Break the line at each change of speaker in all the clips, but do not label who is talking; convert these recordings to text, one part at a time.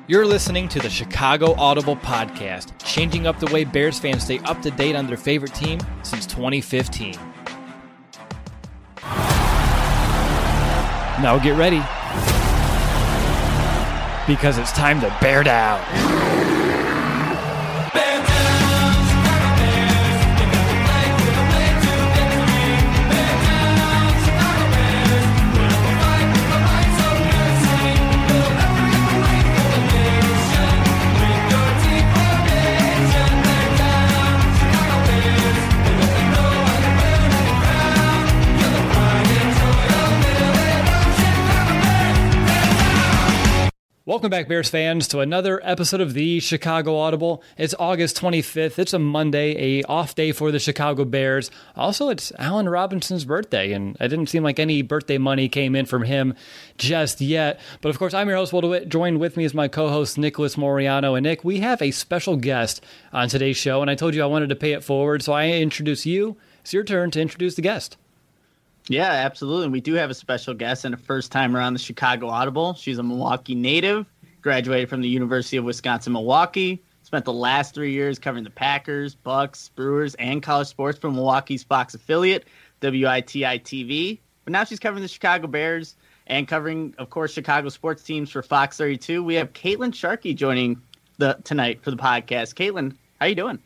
You're listening to the Chicago Audible Podcast, changing up the way Bears fans stay up to date on their favorite team since 2015. Now get ready, because it's time to bear down. Welcome back, Bears fans, to another episode of the Chicago Audible. It's August 25th. It's a Monday, a off day for the Chicago Bears. Also, it's Allen Robinson's birthday, and it didn't seem like any birthday money came in from him just yet. But of course, I'm your host, Will DeWitt. Joined with me is my co-host, Nicholas Moriano. And Nick, we have a special guest on today's show, and I told you I wanted to pay it forward, so I introduce you. It's your turn to introduce the guest.
Yeah, absolutely. And we do have a special guest and a first timer on the Chicago Audible. She's a Milwaukee native, graduated from the University of Wisconsin-Milwaukee, spent the last 3 years covering the Packers, Bucks, Brewers, and college sports for Milwaukee's Fox affiliate, WITI-TV. But now she's covering the Chicago Bears and covering, of course, Chicago sports teams for Fox 32. We have Caitlin Sharkey joining tonight for the podcast. Caitlin, how you doing?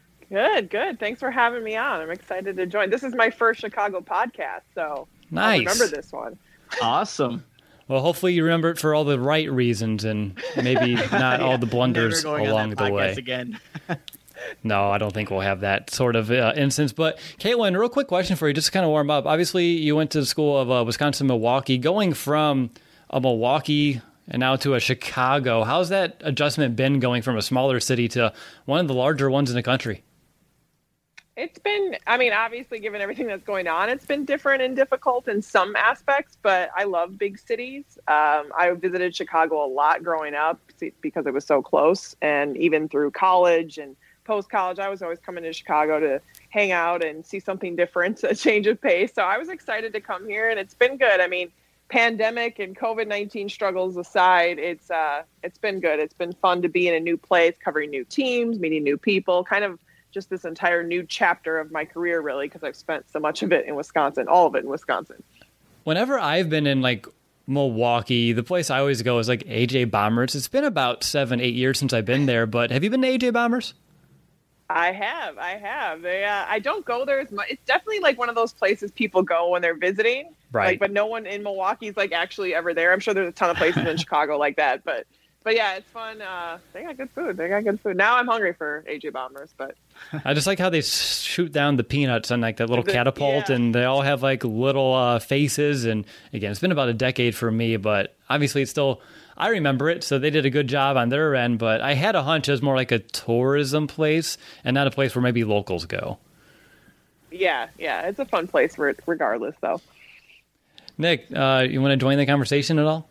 Good. Thanks for having me on. I'm excited to join. This is my first Chicago podcast, so
nice.
I'll remember this one.
Awesome.
Well, hopefully you remember it for all the right reasons and maybe not all the blunders along the way.
Again.
No, I don't think we'll have that sort of instance. But Caitlin, real quick question for you, just to kind of warm up. Obviously, you went to the school of Wisconsin-Milwaukee. Going from a Milwaukee and now to a Chicago, how's that adjustment been going from a smaller city to one of the larger ones in the country?
It's been, obviously, given everything that's going on, it's been different and difficult in some aspects, but I love big cities. I visited Chicago a lot growing up because it was so close, and even through college and post-college, I was always coming to Chicago to hang out and see something different, a change of pace. So I was excited to come here, and it's been good. Pandemic and COVID-19 struggles aside, it's been good. It's been fun to be in a new place, covering new teams, meeting new people, kind of just this entire new chapter of my career, really, because I've spent so much of it in Wisconsin, all of it in Wisconsin.
Whenever I've been in Milwaukee, the place I always go is AJ Bombers. It's been about 7-8 years since I've been there, but have you been to AJ Bombers?
I have. I don't go there as much. It's definitely one of those places people go when they're visiting,
right?
But no one in Milwaukee is actually ever there. I'm sure there's a ton of places in Chicago like that, but yeah, it's fun. They got good food. Now I'm hungry for AJ Bombers, but
I just like how they shoot down the peanuts on that little catapult, and they all have little faces. And again, it's been about a decade for me, but obviously it's still, I remember it. So they did a good job on their end, but I had a hunch it was more like a tourism place and not a place where maybe locals go.
Yeah, it's a fun place regardless, though.
Nick, you want to join the conversation at all?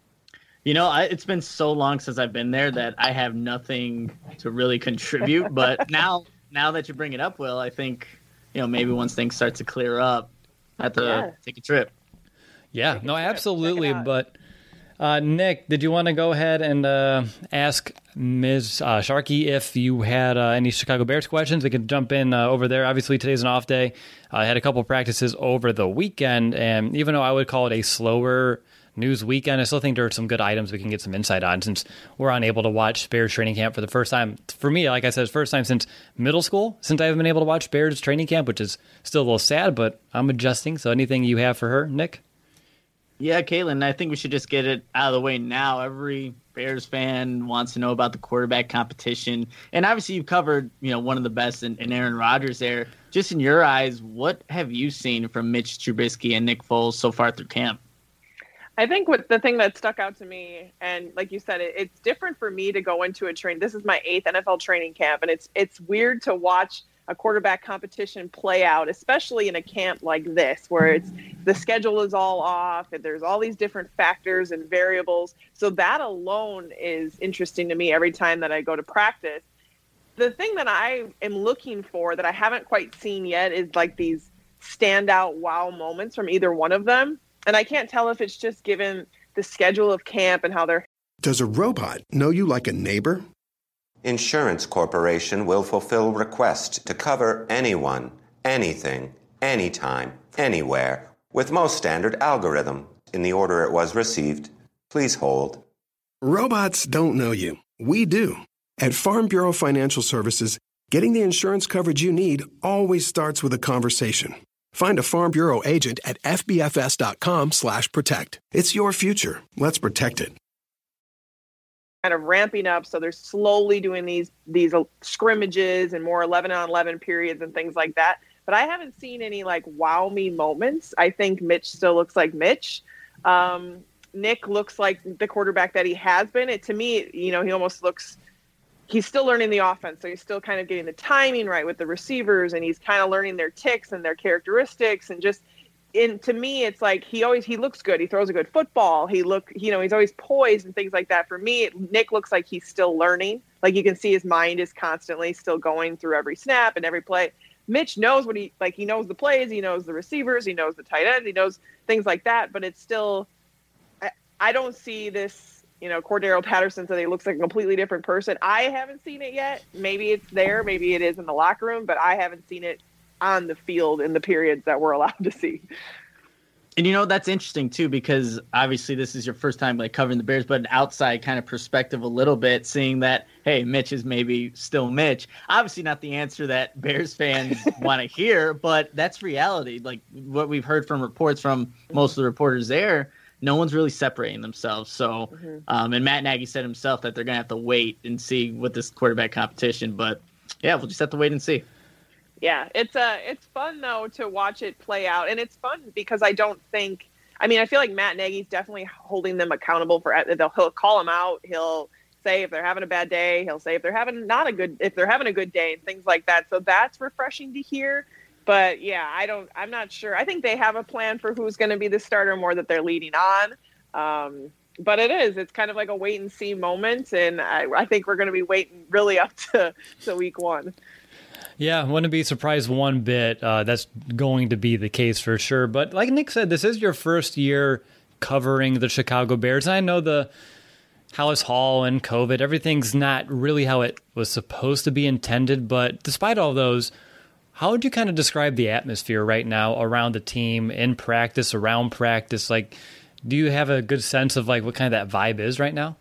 It's been so long since I've been there that I have nothing to really contribute. But now that you bring it up, Will, I think, maybe once things start to clear up, I have to take a trip.
Yeah, no, absolutely. But Nick, did you want to go ahead and ask Ms. Sharkey if you had any Chicago Bears questions? We could jump in over there. Obviously, today's an off day. I had a couple practices over the weekend, and even though I would call it a slower news weekend, I still think there are some good items we can get some insight on since we're unable to watch Bears training camp for the first time. For me, like I said, it's the first time since middle school since I haven't been able to watch Bears training camp, which is still a little sad, but I'm adjusting. So anything you have for her, Nick?
Yeah, Caitlin, I think we should just get it out of the way now. Every Bears fan wants to know about the quarterback competition. And obviously you've covered, one of the best in Aaron Rodgers there. Just in your eyes, what have you seen from Mitch Trubisky and Nick Foles so far through camp?
I think the thing that stuck out to me, and like you said, it's different for me to go into a train. This is my 8th NFL training camp, and it's weird to watch a quarterback competition play out, especially in a camp like this, where the schedule is all off, and there's all these different factors and variables. So that alone is interesting to me every time that I go to practice. The thing that I am looking for that I haven't quite seen yet is these standout wow moments from either one of them. And I can't tell if it's just given the schedule of camp and how they're
Does a robot know you like a neighbor?
Insurance Corporation will fulfill request to cover anyone, anything, anytime, anywhere, with most standard algorithm in the order it was received. Please hold.
Robots don't know you. We do. At Farm Bureau Financial Services, getting the insurance coverage you need always starts with a conversation. Find a Farm Bureau agent at fbfs.com/protect. It's your future. Let's protect it.
Kind of ramping up, so they're slowly doing these scrimmages and more 11-on-11 periods and things like that. But I haven't seen any like wow me moments. I think Mitch still looks like Mitch. Nick looks like the quarterback that he has been. To me, he almost looks. He's still learning the offense, so he's still kind of getting the timing right with the receivers, and he's kind of learning their ticks and their characteristics, and just. To me, it's like he looks good. He throws a good football. He's always poised and things like that. For me, Nick looks like he's still learning. Like you can see his mind is constantly still going through every snap and every play. Mitch knows he knows the plays. He knows the receivers. He knows the tight ends. He knows things like that. But it's still, I don't see this, Cordero Patterson said he looks like a completely different person. I haven't seen it yet. Maybe it's there. Maybe it is in the locker room, but I haven't seen it on the field in the periods that we're allowed to see.
And that's interesting too, because obviously this is your first time like covering the Bears, but an outside kind of perspective a little bit, seeing that, hey, Mitch is maybe still Mitch. Obviously not the answer that Bears fans want to hear, but that's reality. Like what we've heard from reports from most of the reporters there, no one's really separating themselves. So, and Matt Nagy said himself that they're going to have to wait and see with this quarterback competition, but yeah, we'll just have to wait and see.
Yeah, it's fun though to watch it play out, and it's fun because I feel like Matt Nagy's definitely holding them accountable for. He'll call them out. He'll say if they're having a bad day. He'll say if they're having a good day and things like that. So that's refreshing to hear. But yeah, I'm not sure. I think they have a plan for who's going to be the starter more that they're leading on. But it's kind of like a wait and see moment, and I think we're going to be waiting really up to week 1.
Yeah, wouldn't be surprised one bit. That's going to be the case for sure. But like Nick said, this is your first year covering the Chicago Bears. And I know the Halas Hall and COVID, everything's not really how it was supposed to be intended. But despite all those, how would you kind of describe the atmosphere right now around the team, in practice, around practice? Like, do you have a good sense of like what kind of that vibe is right now?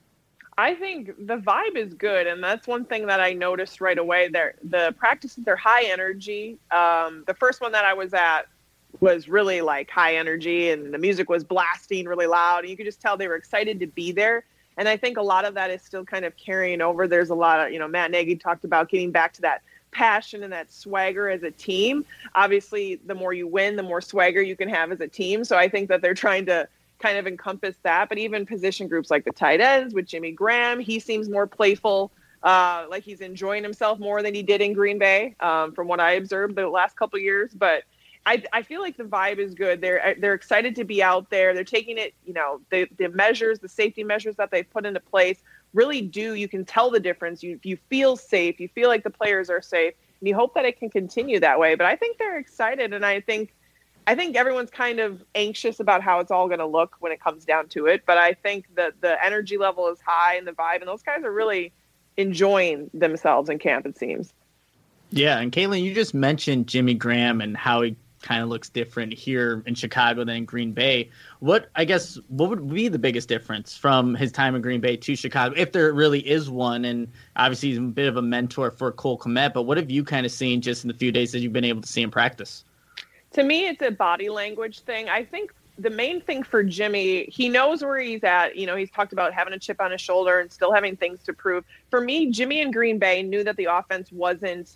I think the vibe is good, and that's one thing that I noticed right away. The practices are high energy. The first one that I was at was really like high energy, and the music was blasting really loud, and you could just tell they were excited to be there. And I think a lot of that is still kind of carrying over. There's a lot of, Matt Nagy talked about getting back to that passion and that swagger as a team. Obviously, the more you win, the more swagger you can have as a team. So I think that they're trying to kind of encompass that, but even position groups like the tight ends with Jimmy Graham, he seems more playful, like he's enjoying himself more than he did in Green Bay, from what I observed the last couple of years. But I feel like the vibe is good. They're excited to be out there. They're taking it, the measures, the safety measures that they've put into place really do. You can tell the difference. You feel safe. You feel like the players are safe, and you hope that it can continue that way. But I think they're excited, and I think everyone's kind of anxious about how it's all going to look when it comes down to it. But I think that the energy level is high and the vibe, and those guys are really enjoying themselves in camp, it seems.
Yeah, and Caitlin, you just mentioned Jimmy Graham and how he kind of looks different here in Chicago than in Green Bay. What would be the biggest difference from his time in Green Bay to Chicago, if there really is one? And obviously he's a bit of a mentor for Cole Kmet, but what have you kind of seen just in the few days that you've been able to see him practice?
To me, it's a body language thing. I think the main thing for Jimmy, he knows where he's at. He's talked about having a chip on his shoulder and still having things to prove. For me, Jimmy in Green Bay knew that the offense wasn't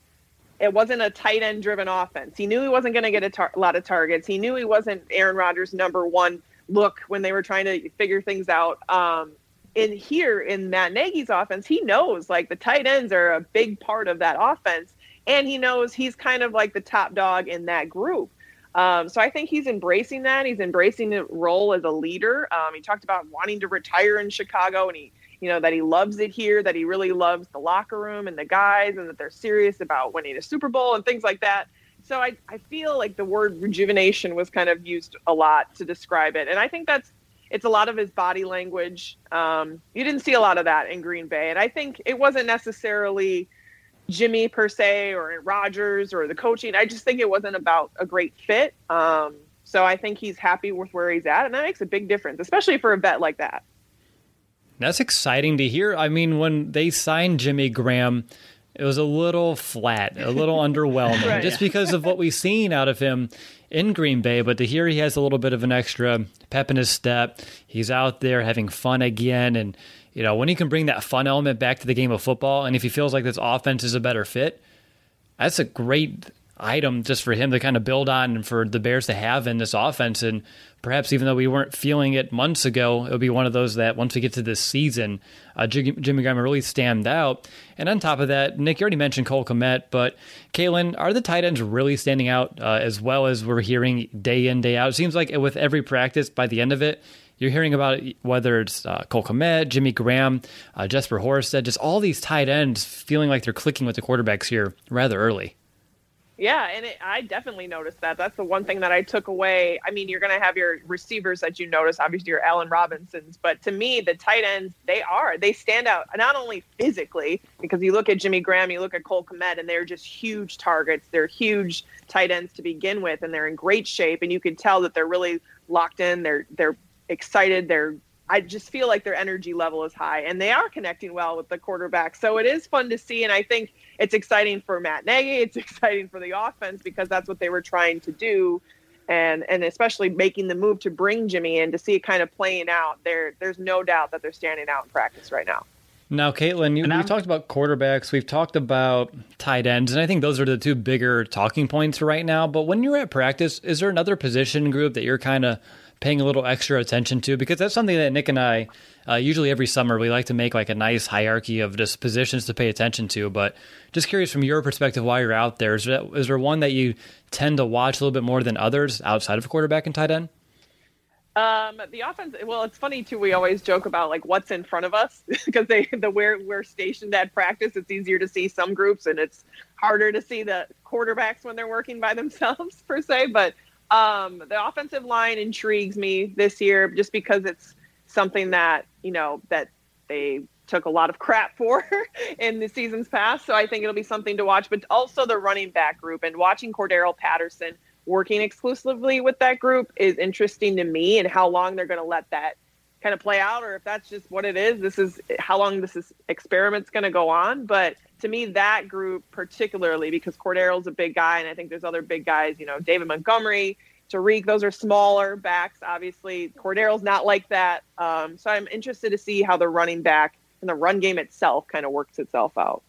a tight end driven offense. He knew he wasn't going to get a lot of targets. He knew he wasn't Aaron Rodgers' number one look when they were trying to figure things out. In here in Matt Nagy's offense, he knows like the tight ends are a big part of that offense. And he knows he's kind of like the top dog in that group. So I think he's embracing that. He's embracing the role as a leader. He talked about wanting to retire in Chicago, and that he loves it here, that he really loves the locker room and the guys, and that they're serious about winning a Super Bowl and things like that. So I feel like the word rejuvenation was kind of used a lot to describe it. And I think it's a lot of his body language. You didn't see a lot of that in Green Bay. And I think it wasn't necessarily Jimmy per se or Rodgers or the coaching. I just think it wasn't about a great fit. So I think he's happy with where he's at, and that makes a big difference, especially for a vet like that.
That's exciting to hear. I mean, when they signed Jimmy Graham, it was a little flat, a little underwhelming,
Right.
just because of what we've seen out of him in Green Bay. But to hear he has a little bit of an extra pep in his step, he's out there having fun again. And, you know, when he can bring that fun element back to the game of football, and if he feels like this offense is a better fit, that's a great item just for him to kind of build on and for the Bears to have in this offense. And perhaps even though we weren't feeling it months ago, it'll be one of those that once we get to this season, Jimmy Graham will really stand out. And on top of that, Nick, you already mentioned Cole Kmet, but Caitlin, are the tight ends really standing out as well as we're hearing day in, day out? It seems like with every practice, by the end of it, you're hearing about whether it's Cole Kmet, Jimmy Graham, Jesper Horsted, just all these tight ends feeling like they're clicking with the quarterbacks here rather early.
Yeah, and I definitely noticed that. That's the one thing that I took away. I mean, you're going to have your receivers that you notice, obviously your Allen Robinsons, but to me, the tight ends, they stand out, not only physically, because you look at Jimmy Graham, you look at Cole Kmet, and they're just huge targets. They're huge tight ends to begin with, and they're in great shape, and you can tell that they're really locked in. They're excited. I just feel like their energy level is high, and they are connecting well with the quarterback. So it is fun to see, and I think it's exciting for Matt Nagy. It's exciting for the offense because that's what they were trying to do, and especially making the move to bring Jimmy in to see it kind of playing out. There's no doubt that they're standing out in practice right now.
Now, Caitlin, we've talked about quarterbacks, we've talked about tight ends, and I think those are the two bigger talking points for right now. But when you're at practice, is there another position group that you're kind of paying a little extra attention to? Because that's something that Nick and I, usually every summer, we like to make like a nice hierarchy of just positions to pay attention to. But just curious from your perspective while you're out there, is there one that you tend to watch a little bit more than others outside of quarterback and tight end?
The offense, well, it's funny too. We always joke about like what's in front of us because we're stationed at practice. It's easier to see some groups and it's harder to see the quarterbacks when they're working by themselves per se. But the offensive line intrigues me this year just because it's something that, that they took a lot of crap for in the seasons past. So I think it'll be something to watch, but also the running back group and watching Cordero Patterson working exclusively with that group is interesting to me, and how long they're going to let that kind of play out, or if that's just what it is. This is how long this experiment's going to go on. But to me, that group particularly, because Cordero's a big guy, and I think there's other big guys, David Montgomery, Tariq, those are smaller backs. Obviously, Cordero's not like that. So I'm interested to see how the running back and the run game itself kind of works itself out.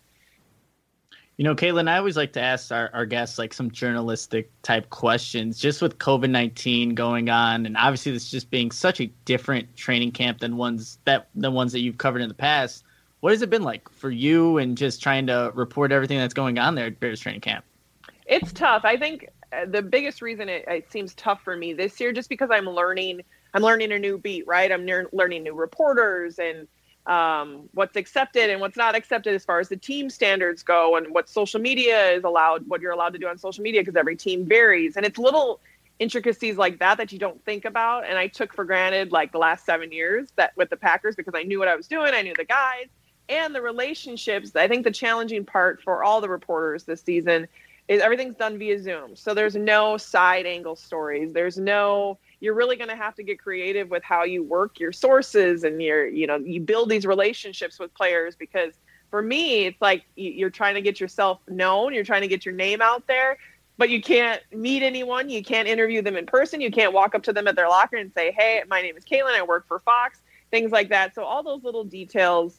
Caitlin, I always like to ask our guests like some journalistic type questions, just with COVID-19 going on, and obviously this just being such a different training camp than the ones that you've covered in the past. What has it been like for you, and just trying to report everything that's going on there at Bears training camp?
It's tough. I think the biggest reason it seems tough for me this year, just because I'm learning a new beat, right? I'm learning new reporters and what's accepted and what's not accepted as far as the team standards go, and what social media is allowed, what you're allowed to do on social media, because every team varies. And it's little intricacies like that you don't think about. And I took for granted like the last 7 years that with the Packers, because I knew what I was doing. I knew the guys and the relationships. I think the challenging part for all the reporters this season is everything's done via Zoom. So there's no side angle stories. You're really going to have to get creative with how you work your sources, and you build these relationships with players, because for me, it's like you're trying to get yourself known. You're trying to get your name out there, but you can't meet anyone. You can't interview them in person. You can't walk up to them at their locker and say, "Hey, my name is Caitlin. I work for Fox," things like that. So all those little details,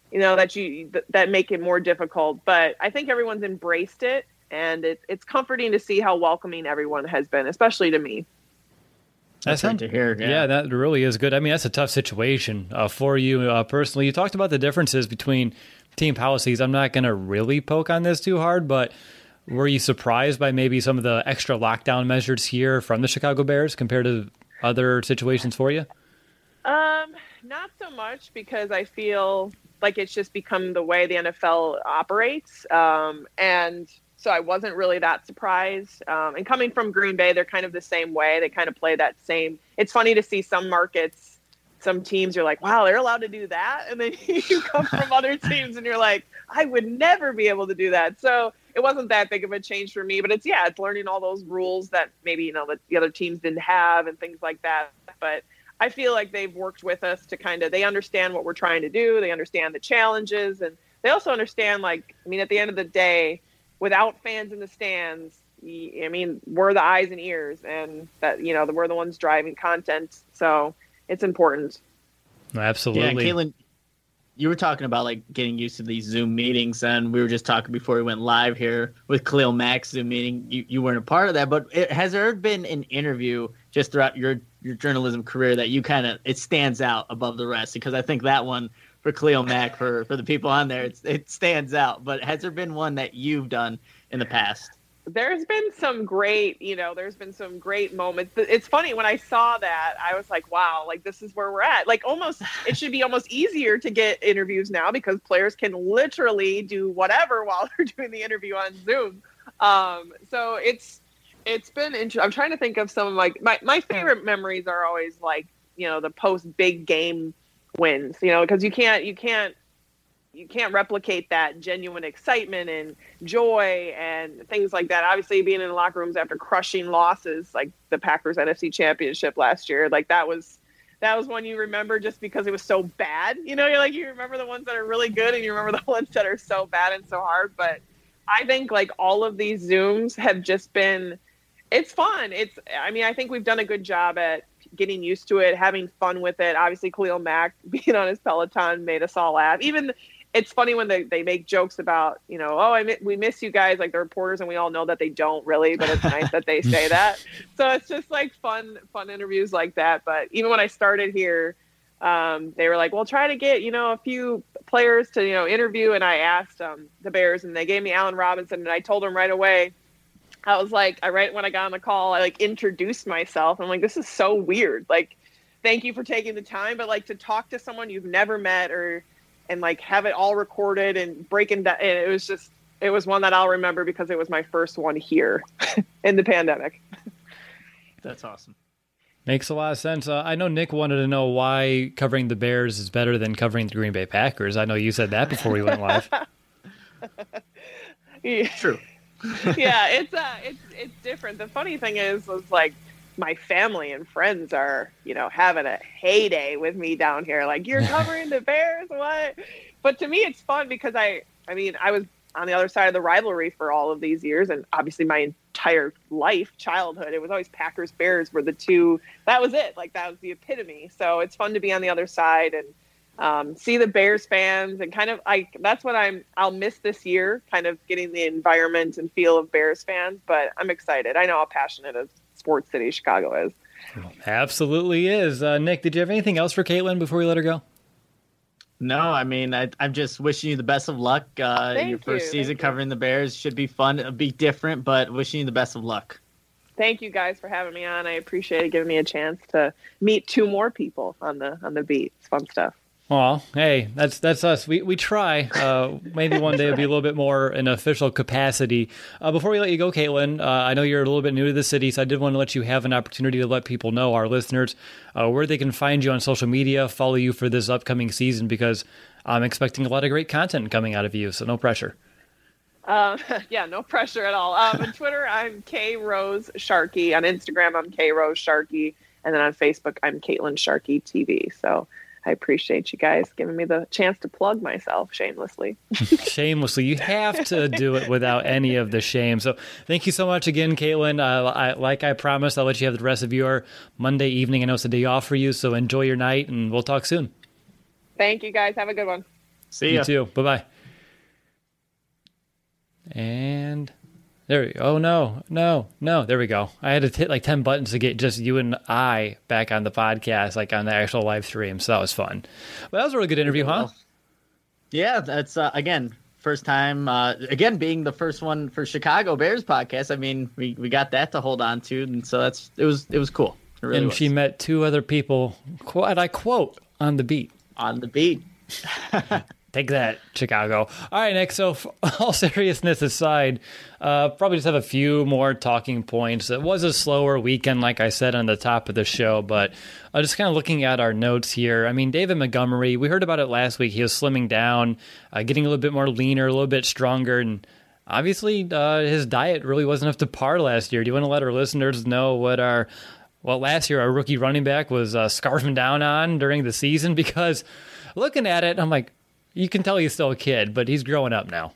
that make it more difficult, but I think everyone's embraced it, and it's comforting to see how welcoming everyone has been, especially to me.
That's great to hear.
Yeah, that really is good. I mean, that's a tough situation for you personally. You talked about the differences between team policies. I'm not going to really poke on this too hard, but were you surprised by maybe some of the extra lockdown measures here from the Chicago Bears compared to other situations for you?
Not so much, because I feel like it's just become the way the NFL operates. And so I wasn't really that surprised. And coming from Green Bay, they're kind of the same way. They kind of play that same. It's funny to see some markets some teams you're like, wow, they're allowed to do that. And then you come from other teams and you're like, I would never be able to do that. So it wasn't that big of a change for me, but it's learning all those rules that maybe, that the other teams didn't have and things like that. But I feel like they've worked with us to they understand what we're trying to do. They understand the challenges, and they also understand, at the end of the day, without fans in the stands, we're the eyes and ears, and that, we're the ones driving content. So it's important.
Absolutely.
Yeah, Caitlin, you were talking about getting used to these Zoom meetings, and we were just talking before we went live here with Khalil Mack's Zoom meeting. You weren't a part of that, but has there been an interview just throughout your journalism career that you it stands out above the rest? Because I think that one for Khalil Mack, for the people on there, it stands out. But has there been one that you've done in the past?
There's been some great moments. It's funny, when I saw that, I was like, wow, this is where we're at. It should be almost easier to get interviews now, because players can literally do whatever while they're doing the interview on Zoom. So it's been interesting. I'm trying to think of some of my favorite memories are always the post big game wins, because you can't replicate that genuine excitement and joy and things like that. Obviously, being in the locker rooms after crushing losses, like the Packers NFC Championship last year, that was one you remember just because it was so bad. You remember the ones that are really good, and you remember the ones that are so bad and so hard. But I think all of these Zooms have just been, it's fun. I think we've done a good job at getting used to it, having fun with it. Obviously, Khalil Mack being on his Peloton made us all laugh. Even it's funny when they make jokes about, we miss you guys, the reporters, and we all know that they don't really, but it's nice that they say that. So it's just fun interviews like that. But even when I started here, they were like, well, try to get, a few players to, interview. And I asked the Bears, and they gave me Allen Robinson, and I told them right away, I was right when I got on the call, I introduced myself. I'm like, this is so weird. Thank you for taking the time. But to talk to someone you've never met and have it all recorded and breaking that. And it was one that I'll remember because it was my first one here in the pandemic.
That's awesome.
Makes a lot of sense. I know Nick wanted to know why covering the Bears is better than covering the Green Bay Packers. I know you said that before we went live.
Yeah.
True.
Yeah, it's different. The funny thing is my family and friends are, having a heyday with me down here. You're covering the Bears, what? But to me, it's fun because I was on the other side of the rivalry for all of these years, and obviously my entire childhood, it was always Packers Bears were the two. That was it. That was the epitome. So it's fun to be on the other side and see the Bears fans and that's what I'll miss this year, kind of getting the environment and feel of Bears fans. But I'm excited. I know how passionate a sports city Chicago is.
Absolutely is. Nick, did you have anything else for Caitlin before we let her go?
No, I'm just wishing you the best of luck. Your first season covering the Bears should be fun. It'll be different, but wishing you the best of luck.
Thank you guys for having me on. I appreciate it, giving me a chance to meet two more people on the beat. It's fun stuff.
Well, hey, that's us. We try. Maybe one day it'll be a little bit more in official capacity. Before we let you go, Caitlin, I know you're a little bit new to the city, so I did want to let you have an opportunity to let people know, our listeners, where they can find you on social media, follow you for this upcoming season, because I'm expecting a lot of great content coming out of you, so no pressure.
Yeah, no pressure at all. On Twitter, I'm K Rose Sharkey. On Instagram, I'm K Rose Sharkey, and then on Facebook, I'm Caitlin Sharkey TV. So I appreciate you guys giving me the chance to plug myself shamelessly.
Shamelessly. You have to do it without any of the shame. So thank you so much again, Caitlin. Like I promised, I'll let you have the rest of your Monday evening. I know it's a day off for you, so enjoy your night, and we'll talk soon.
Thank you, guys. Have a good one.
See ya.
You too. Bye-bye. And there we go. Oh, no. There we go. I had to hit 10 buttons to get just you and I back on the podcast, on the actual live stream. So that was fun. Well, that was a really good interview, huh?
Yeah, that's, again, first time, again, being the first one for Chicago Bears podcast. We got that to hold on to. And so it was cool. It really
and
was.
She met two other people, and I quote, on the beat.
On the beat.
Take that, Chicago. All right, Nick. So, all seriousness aside, probably just have a few more talking points. It was a slower weekend, like I said on the top of the show, but just kind of looking at our notes here. I mean, David Montgomery, we heard about it last week. He was slimming down, getting a little bit more leaner, a little bit stronger, and obviously his diet really wasn't up to par last year. Do you want to let our listeners know what last year our rookie running back was scarfing down on during the season? Because looking at it, I'm like, you can tell he's still a kid, but he's growing up now.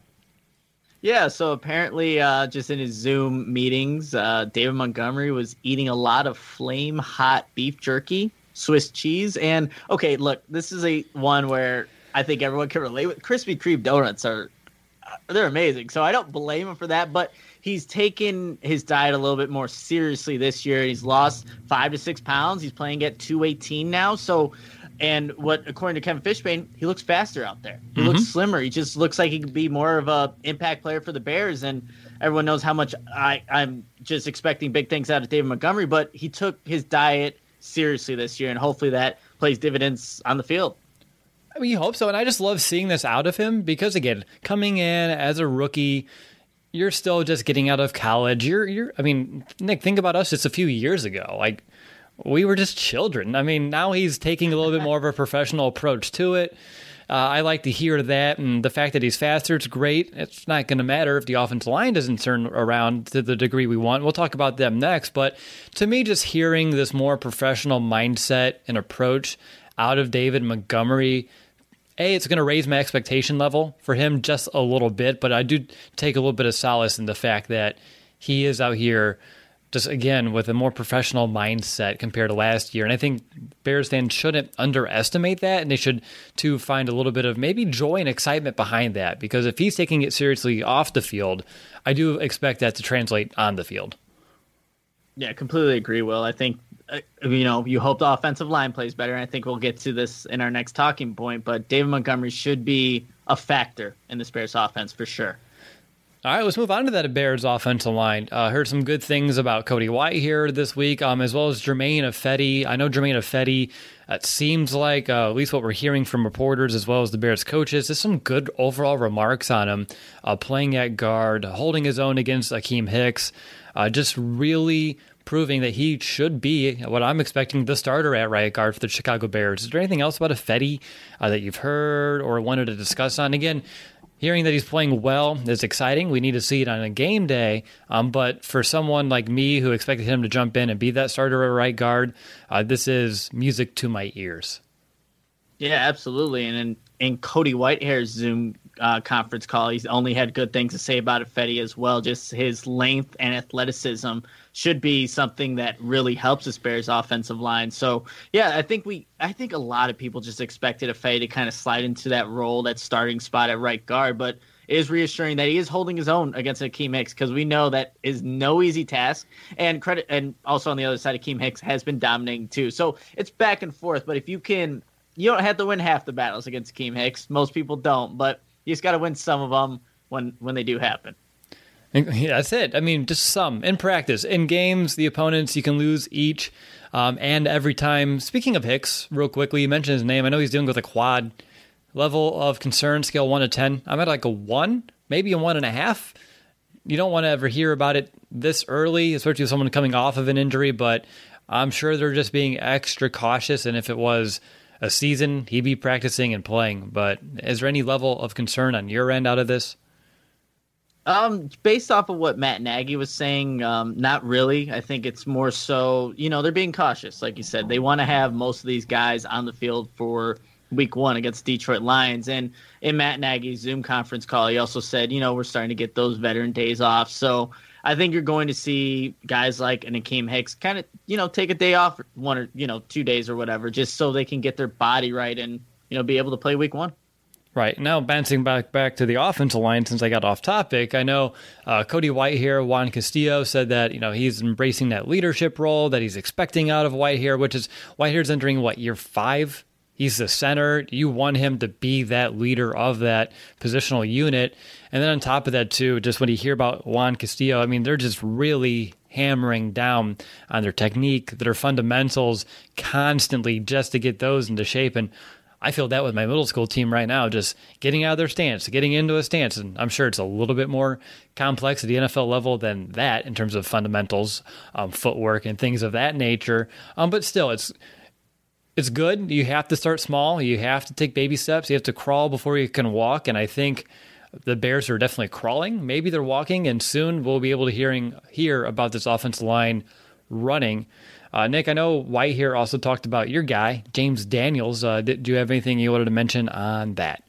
Yeah, so apparently just in his Zoom meetings, David Montgomery was eating a lot of flame hot beef jerky, Swiss cheese, and okay, look, this is one where I think everyone can relate with. Krispy Kreme donuts they're amazing, so I don't blame him for that, but he's taken his diet a little bit more seriously this year. He's lost 5 to 6 pounds. He's playing at 218 now, so... And according to Kevin Fishbane, he looks faster out there. He looks slimmer. He just looks like he could be more of a impact player for the Bears. And everyone knows how much I'm just expecting big things out of David Montgomery. But he took his diet seriously this year, and hopefully that plays dividends on the field.
I mean, you hope so. And I just love seeing this out of him because, again, coming in as a rookie, you're still just getting out of college. I mean, Nick, think about us just a few years ago. Like, we were just children. I mean, now he's taking a little bit more of a professional approach to it. I like to hear that, and the fact that he's faster, it's great. It's not going to matter if the offensive line doesn't turn around to the degree we want. We'll talk about them next, but to me, just hearing this more professional mindset and approach out of David Montgomery, it's going to raise my expectation level for him just a little bit, but I do take a little bit of solace in the fact that he is out here just, again, with a more professional mindset compared to last year. And I think Bears fans shouldn't underestimate that, and they should, too, find a little bit of maybe joy and excitement behind that. Because if he's taking it seriously off the field, I do expect that to translate on the field.
Yeah, completely agree, Will. I think, you hope the offensive line plays better, and I think we'll get to this in our next talking point, but David Montgomery should be a factor in this Bears offense for sure.
All right, let's move on to that Bears offensive line. Heard some good things about Cody White here this week, as well as Germain Ifedi. I know Germain Ifedi, it seems like, at least what we're hearing from reporters as well as the Bears coaches, there's some good overall remarks on him, playing at guard, holding his own against Akeem Hicks, just really proving that he should be what I'm expecting the starter at right guard for the Chicago Bears. Is there anything else about Ifedi that you've heard or wanted to discuss on? Again, hearing that he's playing well is exciting. We need to see it on a game day. But for someone like me who expected him to jump in and be that starter at right guard, this is music to my ears.
Yeah, absolutely. And in Cody Whitehair's Zoom conference call, he's only had good things to say about Ifedi as well. Just his length and athleticism should be something that really helps this Bears offensive line. So, yeah, I think a lot of people just expected Ifedi to kind of slide into that role, that starting spot at right guard, but it is reassuring that he is holding his own against Akeem Hicks, because we know that is no easy task. And also on the other side, Akeem Hicks has been dominating too. So it's back and forth, but if you don't have to win half the battles against Akeem Hicks. Most people don't, but you just got to win some of them when they do happen.
Yeah, that's it. I mean, just some. In practice, in games, the opponents, you can lose each and every time. Speaking of Hicks, real quickly, you mentioned his name. I know he's dealing with a quad. Level of concern, scale 1 to 10. I'm at like a 1, maybe a 1.5. You don't want to ever hear about it this early, especially with someone coming off of an injury, but I'm sure they're just being extra cautious, and if it was a season, he'd be practicing and playing. But is there any level of concern on your end out of this?
Based off of what Matt Nagy was saying, not really. I think it's more so, they're being cautious. Like you said, they want to have most of these guys on the field for week 1 against Detroit Lions. And in Matt Nagy's Zoom conference call, he also said, we're starting to get those veteran days off. So I think you're going to see guys like an Akeem Hicks kind of, take a day off, 1 or, 2 days or whatever, just so they can get their body right and, be able to play week 1.
Right. Now, bouncing back to the offensive line, since I got off topic, I know Cody Whitehair, Juan Castillo, said that, he's embracing that leadership role that he's expecting out of Whitehair, which is Whitehair's entering, year 5? He's the center. You want him to be that leader of that positional unit. And then on top of that, too, just when you hear about Juan Castillo, I mean, they're just really hammering down on their technique, their fundamentals constantly just to get those into shape. And I feel that with my middle school team right now, just getting out of their stance, getting into a stance. And I'm sure it's a little bit more complex at the NFL level than that in terms of fundamentals, footwork, and things of that nature. But still, it's good. You have to start small. You have to take baby steps. You have to crawl before you can walk. And I think the Bears are definitely crawling. Maybe they're walking, and soon we'll be able to hear about this offensive line running. Nick, I know White here also talked about your guy, James Daniels. Do you have anything you wanted to mention on that?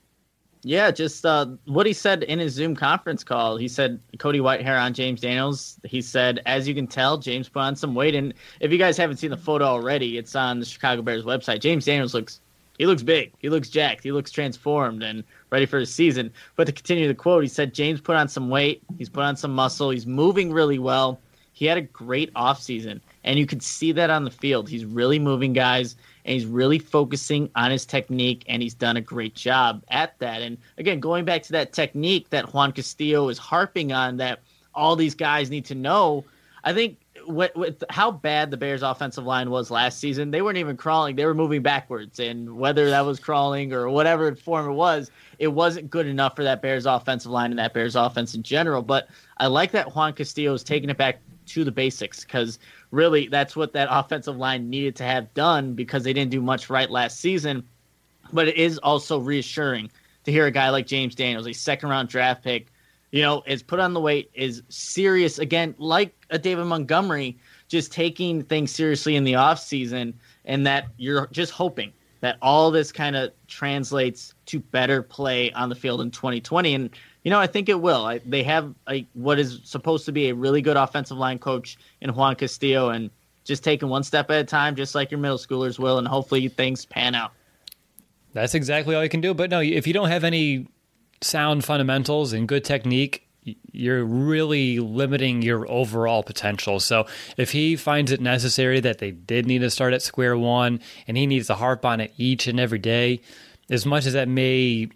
Yeah, just what he said in his Zoom conference call. He said, Cody Whitehair on James Daniels. He said, as you can tell, James put on some weight. And if you guys haven't seen the photo already, it's on the Chicago Bears website. James Daniels looks big. He looks jacked. He looks transformed and ready for his season. But to continue the quote, he said, James put on some weight. He's put on some muscle. He's moving really well. He had a great offseason, and you could see that on the field. He's really moving guys, and he's really focusing on his technique, and he's done a great job at that. And again, going back to that technique that Juan Castillo is harping on that all these guys need to know, I think with how bad the Bears' offensive line was last season, they weren't even crawling. They were moving backwards, and whether that was crawling or whatever form it wasn't good enough for that Bears offensive line and that Bears offense in general. But I like that Juan Castillo is taking it back to the basics, because really that's what that offensive line needed to have done, because they didn't do much right last season. But it is also reassuring to hear a guy like James Daniels, a second-round draft pick, is put on the weight, is serious, again, like a David Montgomery, just taking things seriously in the offseason, and that you're just hoping that all this kind of translates to better play on the field in 2020. And I think it will. They have what is supposed to be a really good offensive line coach in Juan Castillo, and just taking one step at a time, just like your middle schoolers will, and hopefully things pan out.
That's exactly all you can do. But no, if you don't have any sound fundamentals and good technique, you're really limiting your overall potential. So if he finds it necessary that they did need to start at square one, and he needs to harp on it each and every day, as much as that may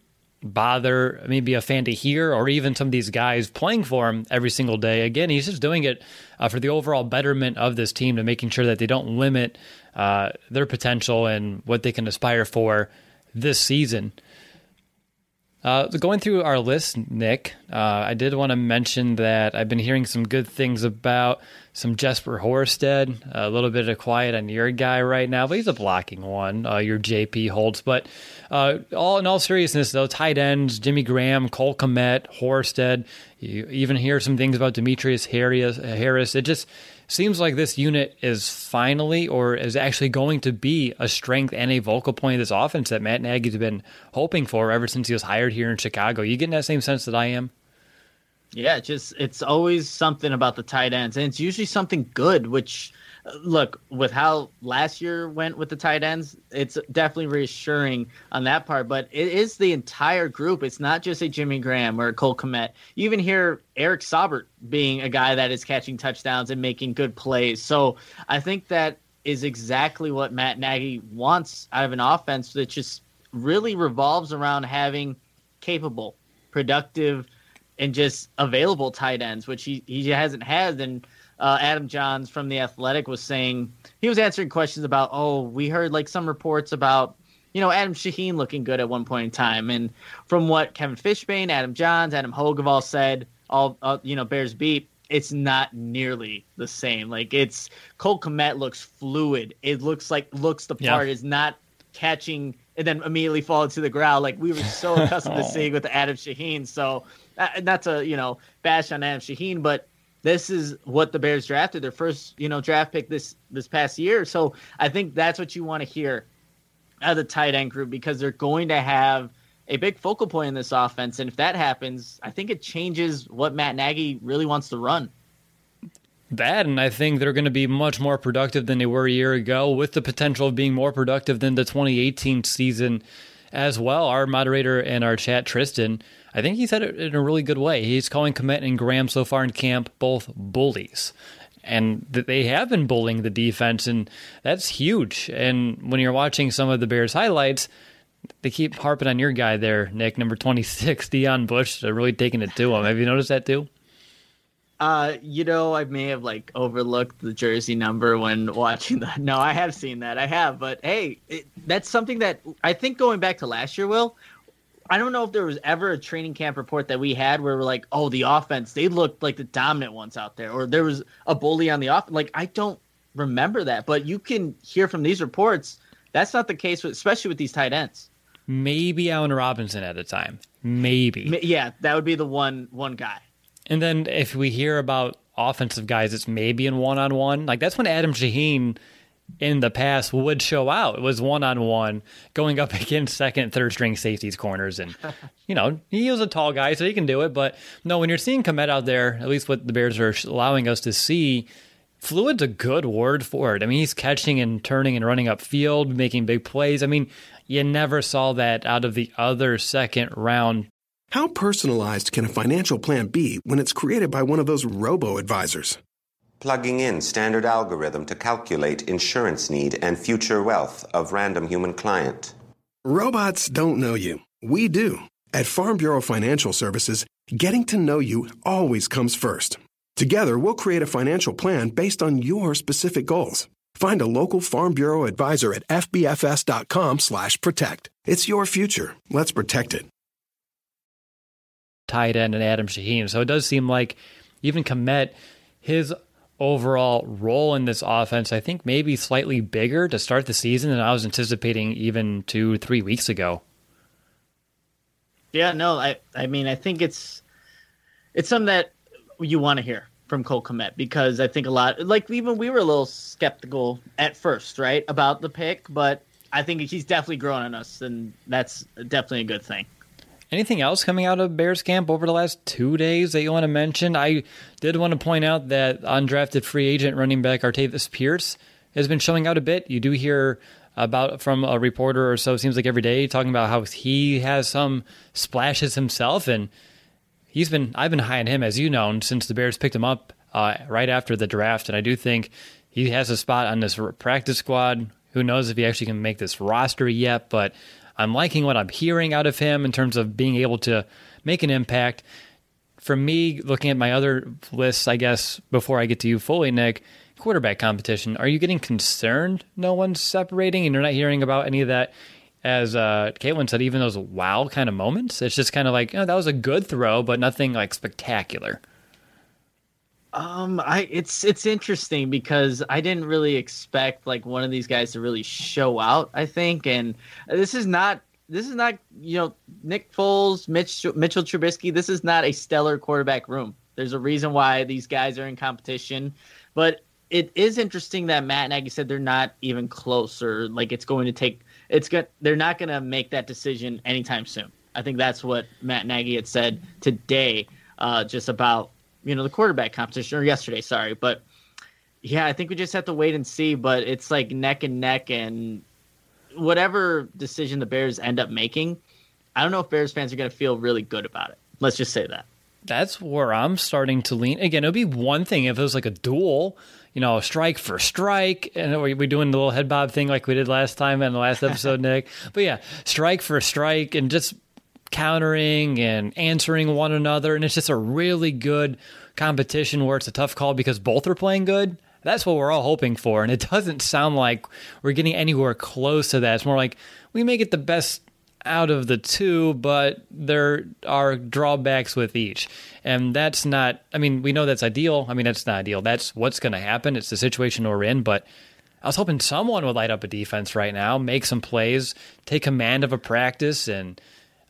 bother maybe a fan to hear, or even some of these guys playing for him every single day. Again, he's just doing it for the overall betterment of this team, to making sure that they don't limit their potential and what they can aspire for this season. Going through our list, Nick, I did want to mention that I've been hearing some good things about some Jesper Horsted, a little bit of quiet on your guy right now, but he's a blocking one, your JP Holtz. But in all seriousness, though, tight ends, Jimmy Graham, Cole Kmet, Horsted, you even hear some things about Demetrius Harris. It just seems like this unit is finally, or is actually going to be, a strength and a vocal point of this offense that Matt Nagy's been hoping for ever since he was hired here in Chicago. You getting that same sense that I am?
Yeah, it's always something about the tight ends, and it's usually something good, which, look, with how last year went with the tight ends, it's definitely reassuring on that part, but it is the entire group. It's not just a Jimmy Graham or a Cole Kmet. You even hear Eric Saubert being a guy that is catching touchdowns and making good plays. So I think that is exactly what Matt Nagy wants out of an offense that just really revolves around having capable, productive, and just available tight ends, which he hasn't had. And Adam Johns from The Athletic was saying, he was answering questions about, we heard like some reports about, Adam Shaheen looking good at one point in time. And from what Kevin Fishbane, Adam Johns, Adam Hogue have all said, Bears beat, it's not nearly the same. Like, it's Cole Kmet looks fluid. It looks the part, is not catching and then immediately fall to the ground like we were so accustomed to seeing with Adam Shaheen. So not to, bash on Adam Shaheen, but this is what the Bears drafted, their first, draft pick this past year. So I think that's what you want to hear out of the tight end group, because they're going to have a big focal point in this offense. And if that happens, I think it changes what Matt Nagy really wants to run.
That, and I think they're going to be much more productive than they were a year ago, with the potential of being more productive than the 2018 season as well. Our moderator in our chat, Tristan, I think he said it in a really good way. He's calling Kmet and Graham so far in camp both bullies. And they have been bullying the defense, and that's huge. And when you're watching some of the Bears highlights, they keep harping on your guy there, Nick, number 26, Deion Bush, really taking it to him. Have you noticed that too?
I may have like overlooked the jersey number when watching that. No, I have seen that. I have, but hey, that's something that I think going back to last year, Will. I don't know if there was ever a training camp report that we had where we're like, oh, the offense, they looked like the dominant ones out there, or there was a bully on the offense. Like, I don't remember that, but you can hear from these reports that's not the case, especially with these tight ends.
Maybe Allen Robinson at a time. Maybe.
Yeah, that would be the one guy.
And then if we hear about offensive guys, it's maybe in one-on-one. Like, that's when Adam Shaheen in the past would show out. It was one-on-one going up against second, third-string safeties, corners. And, he was a tall guy, so he can do it. But, no, when you're seeing Kmet out there, at least what the Bears are allowing us to see, fluid's a good word for it. I mean, he's catching and turning and running upfield, making big plays. I mean, you never saw that out of the other second round.
How personalized can a financial plan be when it's created by one of those robo-advisors?
Plugging in standard algorithm to calculate insurance need and future wealth of random human client.
Robots don't know you. We do. At Farm Bureau Financial Services, getting to know you always comes first. Together, we'll create a financial plan based on your specific goals. Find a local Farm Bureau advisor at fbfs.com/protect. It's your future. Let's protect it.
Tight end and Adam Shaheen. So it does seem like even Kmet, his overall role in this offense, I think maybe slightly bigger to start the season than I was anticipating even 2-3 weeks ago.
Yeah, no, I mean, I think it's something that you want to hear from Cole Kmet, because I think a lot, like even we were a little skeptical at first, right, about the pick, but I think he's definitely growing on us, and that's definitely a good thing.
Anything else coming out of Bears camp over the last 2 days that you want to mention? I did want to point out that undrafted free agent running back Artavis Pierce has been showing out a bit. You do hear about from a reporter or so, it seems like every day, talking about how he has some splashes himself, and I've been high on him, as you know, since the Bears picked him up right after the draft, and I do think he has a spot on this practice squad. Who knows if he actually can make this roster yet, but I'm liking what I'm hearing out of him in terms of being able to make an impact. For me, looking at my other lists, I guess, before I get to you fully, Nick, quarterback competition, are you getting concerned no one's separating and you're not hearing about any of that? As Caitlin said, even those wow kind of moments, it's just kind of like, that was a good throw, but nothing like spectacular.
It's interesting because I didn't really expect like one of these guys to really show out, I think, and this is not Nick Foles, Mitchell Trubisky. This is not a stellar quarterback room. There's a reason why these guys are in competition, but it is interesting that Matt Nagy said they're not even close, or like they're not going to make that decision anytime soon. I think that's what Matt Nagy had said today, just about the quarterback competition, or yesterday, sorry. But yeah, I think we just have to wait and see. But it's like neck and neck, and whatever decision the Bears end up making, I don't know if Bears fans are going to feel really good about it. Let's just say that.
That's where I'm starting to lean. Again, it would be one thing if it was like a duel, strike for strike, and we're doing the little head bob thing like we did last time in the last episode, Nick. But yeah, strike for strike and just countering and answering one another, and it's just a really good competition where it's a tough call because both are playing good. That's what we're all hoping for, and it doesn't sound like we're getting anywhere close to that. It's more like we may get the best out of the two, but there are drawbacks with each. And that's not, we know that's ideal. That's not ideal. That's what's going to happen. It's the situation we're in, but I was hoping someone would light up a defense right now, make some plays, take command of a practice, and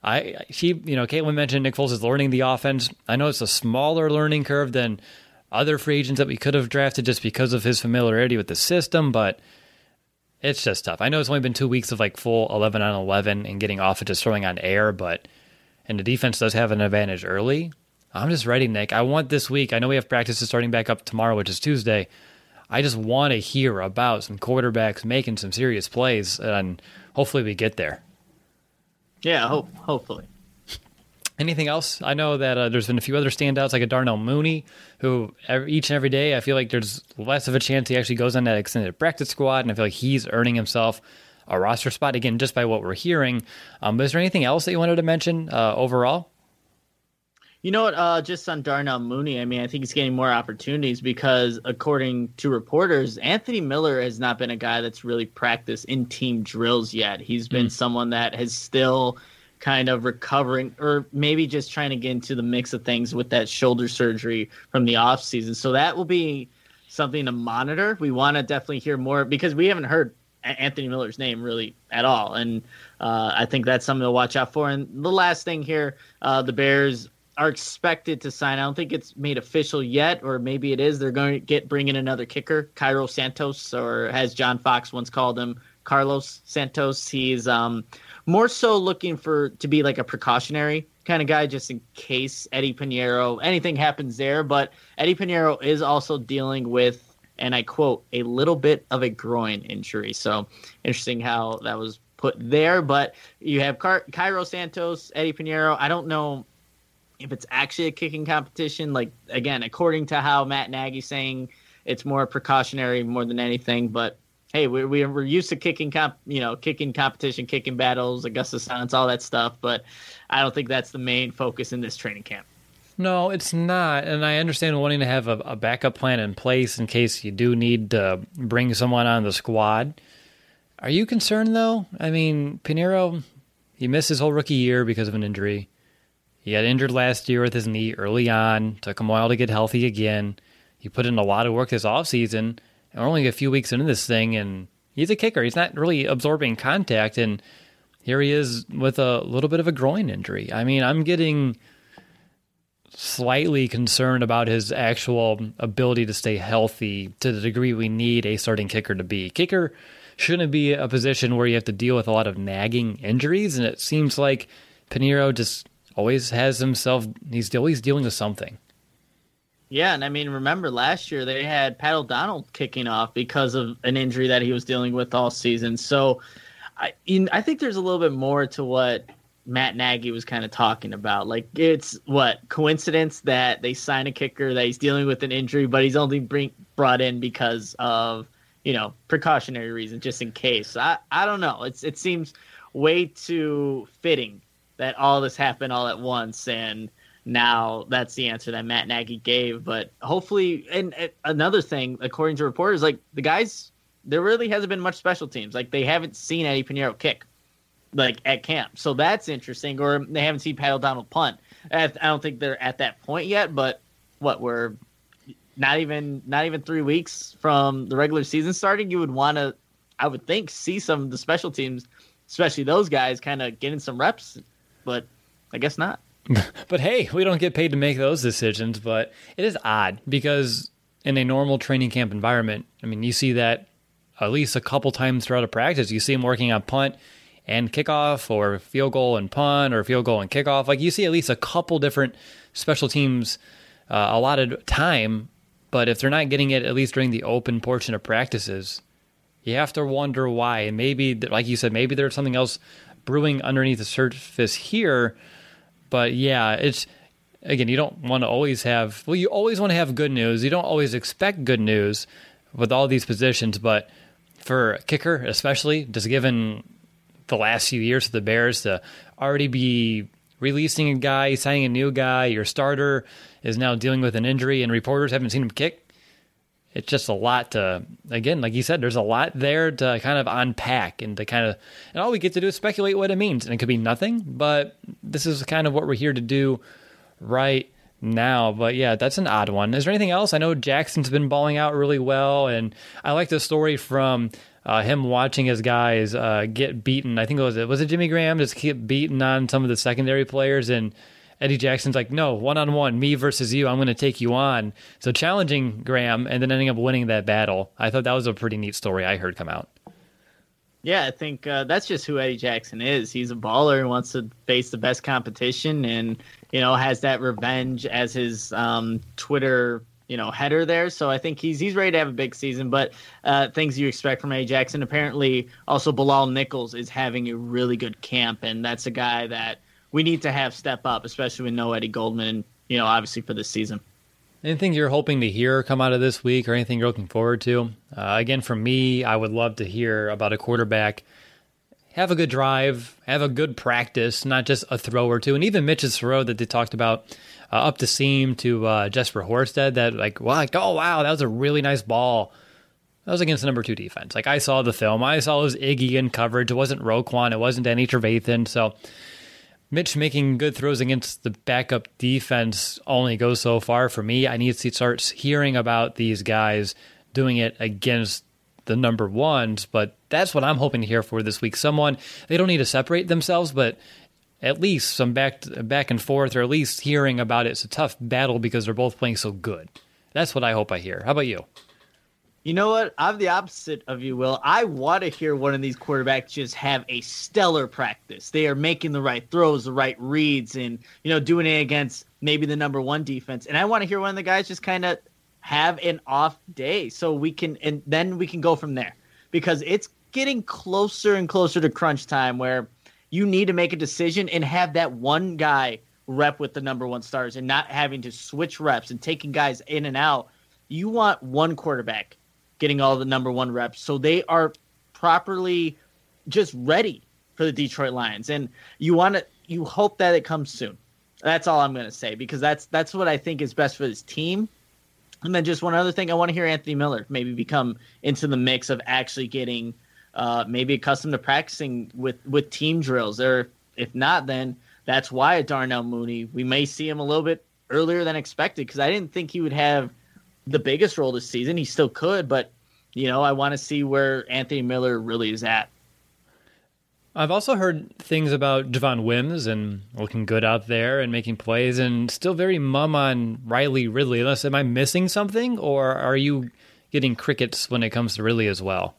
Caitlin mentioned Nick Foles is learning the offense. I know it's a smaller learning curve than other free agents that we could have drafted just because of his familiarity with the system, but it's just tough. I know it's only been 2 weeks of like full 11 on 11 and getting off of just throwing on air, and the defense does have an advantage early. I'm just ready, Nick. I want this week. I know we have practices starting back up tomorrow, which is Tuesday. I just want to hear about some quarterbacks making some serious plays, and hopefully we get there.
Yeah, hopefully.
Anything else? I know that there's been a few other standouts, like a Darnell Mooney, who each and every day I feel like there's less of a chance he actually goes on that extended practice squad, and I feel like he's earning himself a roster spot, again, just by what we're hearing. But is there anything else that you wanted to mention overall?
You know what? Just on Darnell Mooney, I mean, I think he's getting more opportunities because, according to reporters, Anthony Miller has not been a guy that's really practiced in team drills yet. He's been someone that has still kind of recovering, or maybe just trying to get into the mix of things with that shoulder surgery from the offseason. So that will be something to monitor. We want to definitely hear more because we haven't heard Anthony Miller's name really at all. And I think that's something to watch out for. And the last thing here, the Bears are expected to sign. I don't think it's made official yet, or maybe it is. They're going to bring in another kicker, Cairo Santos, or as John Fox once called him, Carlos Santos. He's more so looking to be like a precautionary kind of guy, just in case Eddie Pinheiro, anything happens there. But Eddie Pinheiro is also dealing with, and I quote, a little bit of a groin injury. So interesting how that was put there. But you have Cairo Santos, Eddie Pinheiro. I don't know if it's actually a kicking competition. Like, again, according to how Matt Nagy's saying, it's more precautionary more than anything. But hey, we're used to kicking competition, kicking battles, Augusta Silence, all that stuff. But I don't think that's the main focus in this training camp.
No, it's not. And I understand wanting to have a backup plan in place in case you do need to bring someone on the squad. Are you concerned, though? I mean, Pinheiro, he missed his whole rookie year because of an injury. He got injured last year with his knee early on. Took him a while to get healthy again. He put in a lot of work this offseason. And we're only a few weeks into this thing, and he's a kicker. He's not really absorbing contact, and here he is with a little bit of a groin injury. I mean, I'm getting slightly concerned about his actual ability to stay healthy to the degree we need a starting kicker to be. Kicker shouldn't be a position where you have to deal with a lot of nagging injuries, and it seems like Pinheiro just always has himself, he's always dealing with something.
Yeah, and I mean, remember last year they had Pat O'Donnell kicking off because of an injury that he was dealing with all season. So I think there's a little bit more to what Matt Nagy was kind of talking about. Like, it's coincidence that they sign a kicker that he's dealing with an injury, but he's only brought in because of, precautionary reasons, just in case. I don't know. It seems way too fitting that all this happened all at once, and now that's the answer that Matt Nagy gave. But hopefully, and another thing, according to reporters, like the guys, there really hasn't been much special teams. Like they haven't seen Eddie Pinheiro kick, like at camp. So that's interesting. Or they haven't seen Pat O'Donnell punt. I don't think they're at that point yet. But we're not even 3 weeks from the regular season starting. You would want to, I would think, see some of the special teams, especially those guys, kind of getting some reps. But I guess not.
But hey, we don't get paid to make those decisions. But it is odd because in a normal training camp environment, I mean, you see that at least a couple times throughout a practice. You see them working on punt and kickoff, or field goal and punt, or field goal and kickoff. Like you see at least a couple different special teams allotted time. But if they're not getting it, at least during the open portion of practices, you have to wonder why. And maybe, like you said, maybe there's something else brewing underneath the surface here. But yeah, it's, again, you don't want to always have, you always want to have good news. You don't always expect good news with all these positions. But for a kicker, especially, just given the last few years of the Bears, to already be releasing a guy, signing a new guy, your starter is now dealing with an injury, and reporters haven't seen him kick. It's just a lot to, again, like you said, there's a lot there to kind of unpack and to kind of, and all we get to do is speculate what it means. And it could be nothing, but this is kind of what we're here to do right now. But yeah, that's an odd one. Is there anything else? I know Jackson's been balling out really well, and I like the story from him watching his guys get beaten. I think was it Jimmy Graham just keep beating on some of the secondary players, and Eddie Jackson's like, no, one-on-one, me versus you, I'm going to take you on. So challenging Graham and then ending up winning that battle. I thought that was a pretty neat story I heard come out.
Yeah, I think that's just who Eddie Jackson is. He's a baller and wants to face the best competition, and, has that revenge as his Twitter, header there. So I think he's ready to have a big season. But things you expect from Eddie Jackson. Apparently, also Bilal Nichols is having a really good camp, and that's a guy that we need to have step up, especially with no Eddie Goldman, obviously for this season.
Anything you're hoping to hear come out of this week, or anything you're looking forward to? Again, for me, I would love to hear about a quarterback. have a good drive, have a good practice, not just a throw or two. And even Mitch's throw that they talked about up the seam to Jesper Horsted, that oh, wow, that was a really nice ball. That was against the number 2 defense. Like, I saw the film. I saw it was Iggy in coverage. It wasn't Roquan. It wasn't Danny Trevathan. So Mitch making good throws against the backup defense only goes so far for me. I need to start hearing about these guys doing it against the number ones, but that's what I'm hoping to hear for this week. Someone, they don't need to separate themselves, but at least some back and forth, or at least hearing about it. It's a tough battle because they're both playing so good. That's what I hope I hear. How about you?
You know what? I'm the opposite of you, Will. I want to hear one of these quarterbacks just have a stellar practice. They are making the right throws, the right reads, and doing it against maybe the number 1 defense. And I want to hear one of the guys just kind of have an off day, so then we can go from there, because it's getting closer and closer to crunch time where you need to make a decision and have that one guy rep with the number 1 stars and not having to switch reps and taking guys in and out. You want one quarterback getting all the number 1 reps, so they are properly just ready for the Detroit Lions. And you hope that it comes soon. That's all I'm going to say, because that's what I think is best for this team. And then just one other thing, I want to hear Anthony Miller maybe become into the mix of actually getting maybe accustomed to practicing with team drills. Or if not, then that's why Darnell Mooney, we may see him a little bit earlier than expected, because I didn't think he would have the biggest role this season. He still could, but I want to see where Anthony Miller really is at.
I've also heard things about Javon Wims and looking good out there and making plays, and still very mum on Riley Ridley. Unless, am I missing something, or are you getting crickets when it comes to Ridley as well?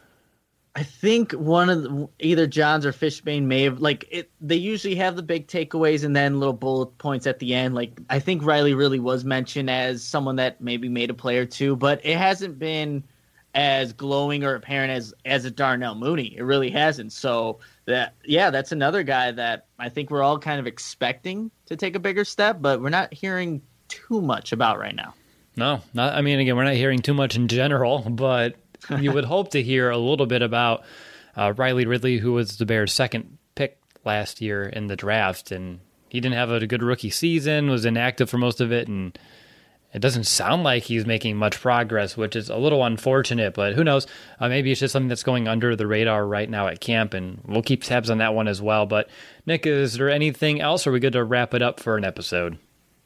I think one of either Johns or Fishbane may have, they usually have the big takeaways and then little bullet points at the end. I think Riley really was mentioned as someone that maybe made a play or two, but it hasn't been as glowing or apparent as a Darnell Mooney. It really hasn't. So that's another guy that I think we're all kind of expecting to take a bigger step, but we're not hearing too much about right now.
No, again, we're not hearing too much in general, but you would hope to hear a little bit about Riley Ridley, who was the Bears' second pick last year in the draft, and he didn't have a good rookie season, was inactive for most of it, and it doesn't sound like he's making much progress, which is a little unfortunate, but who knows? Maybe it's just something that's going under the radar right now at camp, and we'll keep tabs on that one as well. But Nick, is there anything else, or are we good to wrap it up for an episode?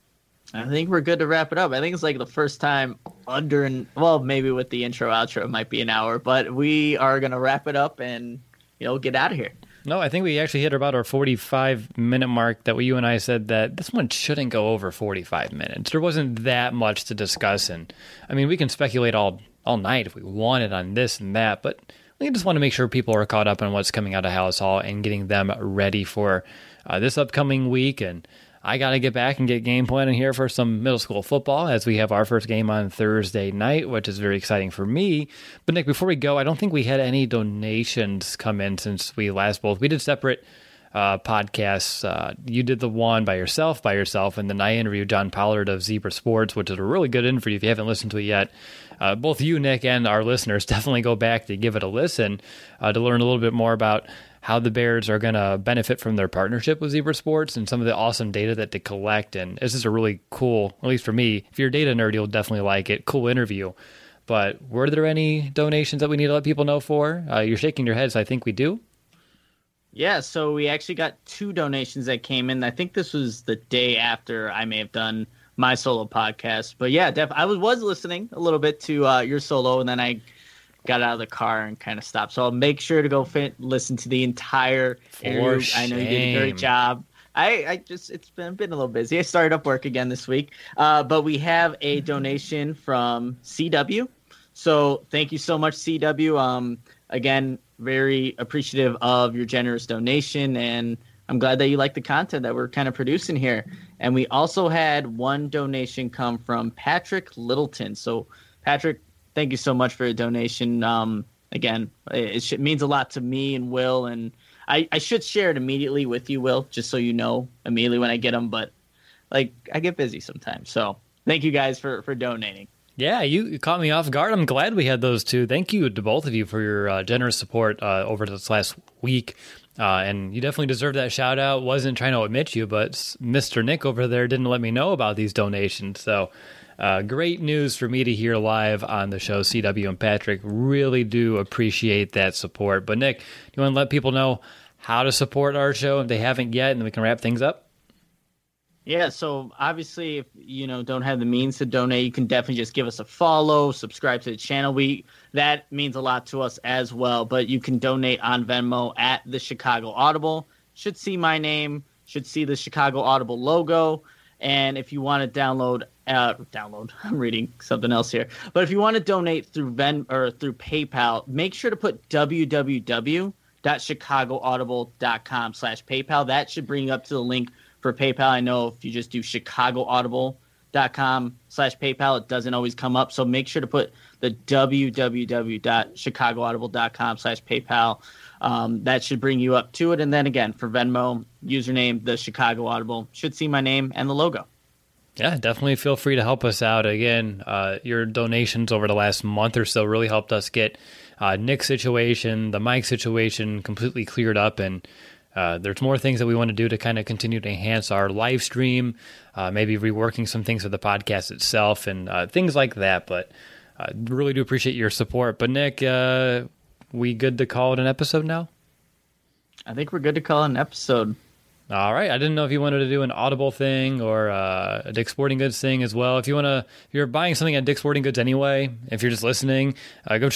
I think we're good to wrap it up. I think it's the first time maybe with the intro, outro, it might be an hour, but we are going to wrap it up and, get out of here.
No, I think we actually hit about our 45-minute mark that you and I said that this one shouldn't go over 45 minutes. There wasn't that much to discuss, and we can speculate all night if we wanted on this and that, but we just want to make sure people are caught up on what's coming out of Halas Hall and getting them ready for this upcoming week. And I got to get back and get game planning here for some middle school football, as we have our first game on Thursday night, which is very exciting for me. But Nick, before we go, I don't think we had any donations come in since we last both. We did separate podcasts. You did the one by yourself, and then I interviewed John Pollard of Zebra Sports, which is a really good interview if you haven't listened to it yet. Both you, Nick, and our listeners definitely go back to give it a listen to learn a little bit more about how the Bears are going to benefit from their partnership with Zebra Sports and some of the awesome data that they collect. And this is a really cool, at least for me, if you're a data nerd, you'll definitely like it. Cool interview. But were there any donations that we need to let people know for? You're shaking your head, so I think we do.
Yeah, so we actually got 2 donations that came in. I think this was the day after I may have done my solo podcast. But yeah, I was listening a little bit to your solo, and then I got out of the car and kind of stopped. So I'll make sure to go listen to the entire interview. I know you did a great job. It's been a little busy. I started up work again this week. But we have a donation from CW. So thank you so much, CW. Again, very appreciative of your generous donation, and I'm glad that you like the content that we're kind of producing here. And we also had one donation come from Patrick Littleton. So Patrick, thank you so much for a donation. Again, it means a lot to me and Will, and I should share it immediately with you, Will, just so you know immediately when I get them. But I get busy sometimes. So thank you guys for donating.
Yeah, you caught me off guard. I'm glad we had those two. Thank you to both of you for your generous support over this last week. And you definitely deserve that shout out. Wasn't trying to admit you, but Mr. Nick over there didn't let me know about these donations. So great news for me to hear live on the show, CW and Patrick. Really do appreciate that support. But Nick, do you want to let people know how to support our show if they haven't yet, and then we can wrap things up?
Yeah, so obviously if you don't have the means to donate, you can definitely just give us a follow, subscribe to the channel. That means a lot to us as well. But you can donate on Venmo at the Chicago Audible. Should see my name, should see the Chicago Audible logo. And if you want to download, I'm reading something else here. But if you want to donate through through PayPal, make sure to put www.chicagoaudible.com/PayPal. That should bring you up to the link for PayPal. I know if you just do chicagoaudible.com/PayPal, it doesn't always come up. So make sure to put the www.chicagoaudible.com/PayPal. That should bring you up to it. And then again, for Venmo, username, the Chicago Audible. Should see my name and the logo.
Yeah, definitely feel free to help us out. Again, your donations over the last month or so really helped us get Nick's situation, the Mike situation completely cleared up. And there's more things that we want to do to kind of continue to enhance our live stream, maybe reworking some things with the podcast itself and things like that. But really do appreciate your support. But Nick, we good to call it an episode now?
I think we're good to call it an episode.
All right. I didn't know if you wanted to do an Audible thing or a Dick's Sporting Goods thing as well. If you're buying something at Dick's Sporting Goods anyway, if you're just listening, go to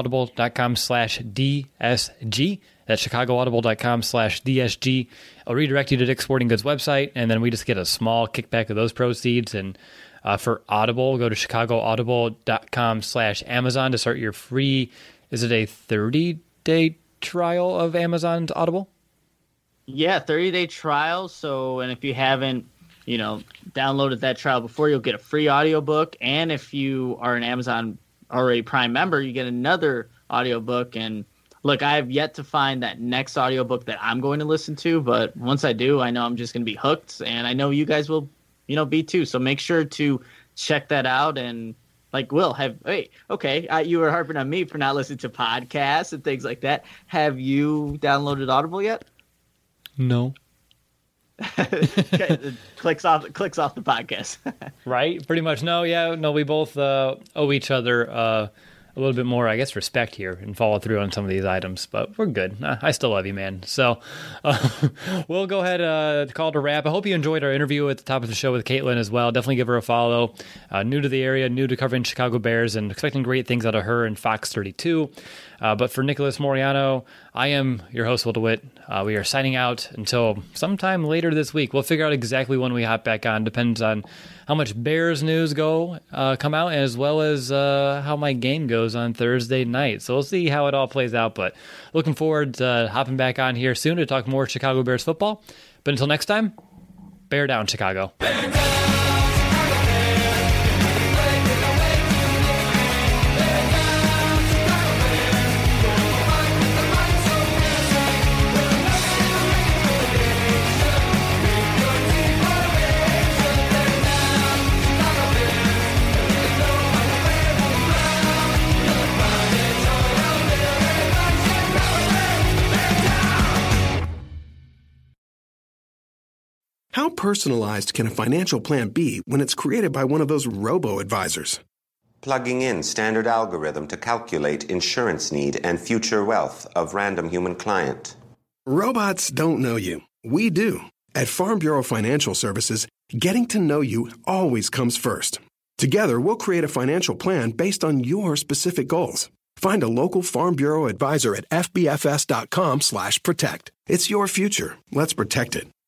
chicagoaudible.com/DSG. That's chicagoaudible.com/DSG. I'll redirect you to Dick's Sporting Goods website, and then we just get a small kickback of those proceeds. And for Audible, go to chicagoaudible.com/Amazon to start your free, is it a 30-day trial of Amazon's Audible?
Yeah, 30-day trial. So, and if you haven't, downloaded that trial before, you'll get a free audiobook. And if you are an Amazon already Prime member, you get another audiobook. And look, I have yet to find that next audiobook that I'm going to listen to. But once I do, I know I'm just going to be hooked. And I know you guys will, be too. So make sure to check that out. And you were harping on me for not listening to podcasts and things like that. Have you downloaded Audible yet?
No.
clicks off the podcast.
Right, pretty much. No, we both owe each other a little bit more, I guess, respect here and follow through on some of these items, but we're good. I still love you, man. So we'll go ahead call it a wrap. I hope you enjoyed our interview at the top of the show with Caitlin as well. Definitely give her a follow. New to the area, new to covering Chicago Bears, and expecting great things out of her and Fox 32. But for Nicholas Moriano, I am your host, Will DeWitt. We are signing out until sometime later this week. We'll figure out exactly when we hop back on. Depends on how much Bears news come out, as well as how my game goes on Thursday night. So we'll see how it all plays out. But looking forward to hopping back on here soon to talk more Chicago Bears football. But until next time, bear down, Chicago.
How personalized can a financial plan be when it's created by one of those robo-advisors?
Plugging in standard algorithm to calculate insurance need and future wealth of random human client.
Robots don't know you. We do. At Farm Bureau Financial Services, getting to know you always comes first. Together, we'll create a financial plan based on your specific goals. Find a local Farm Bureau advisor at fbfs.com/protect. It's your future. Let's protect it.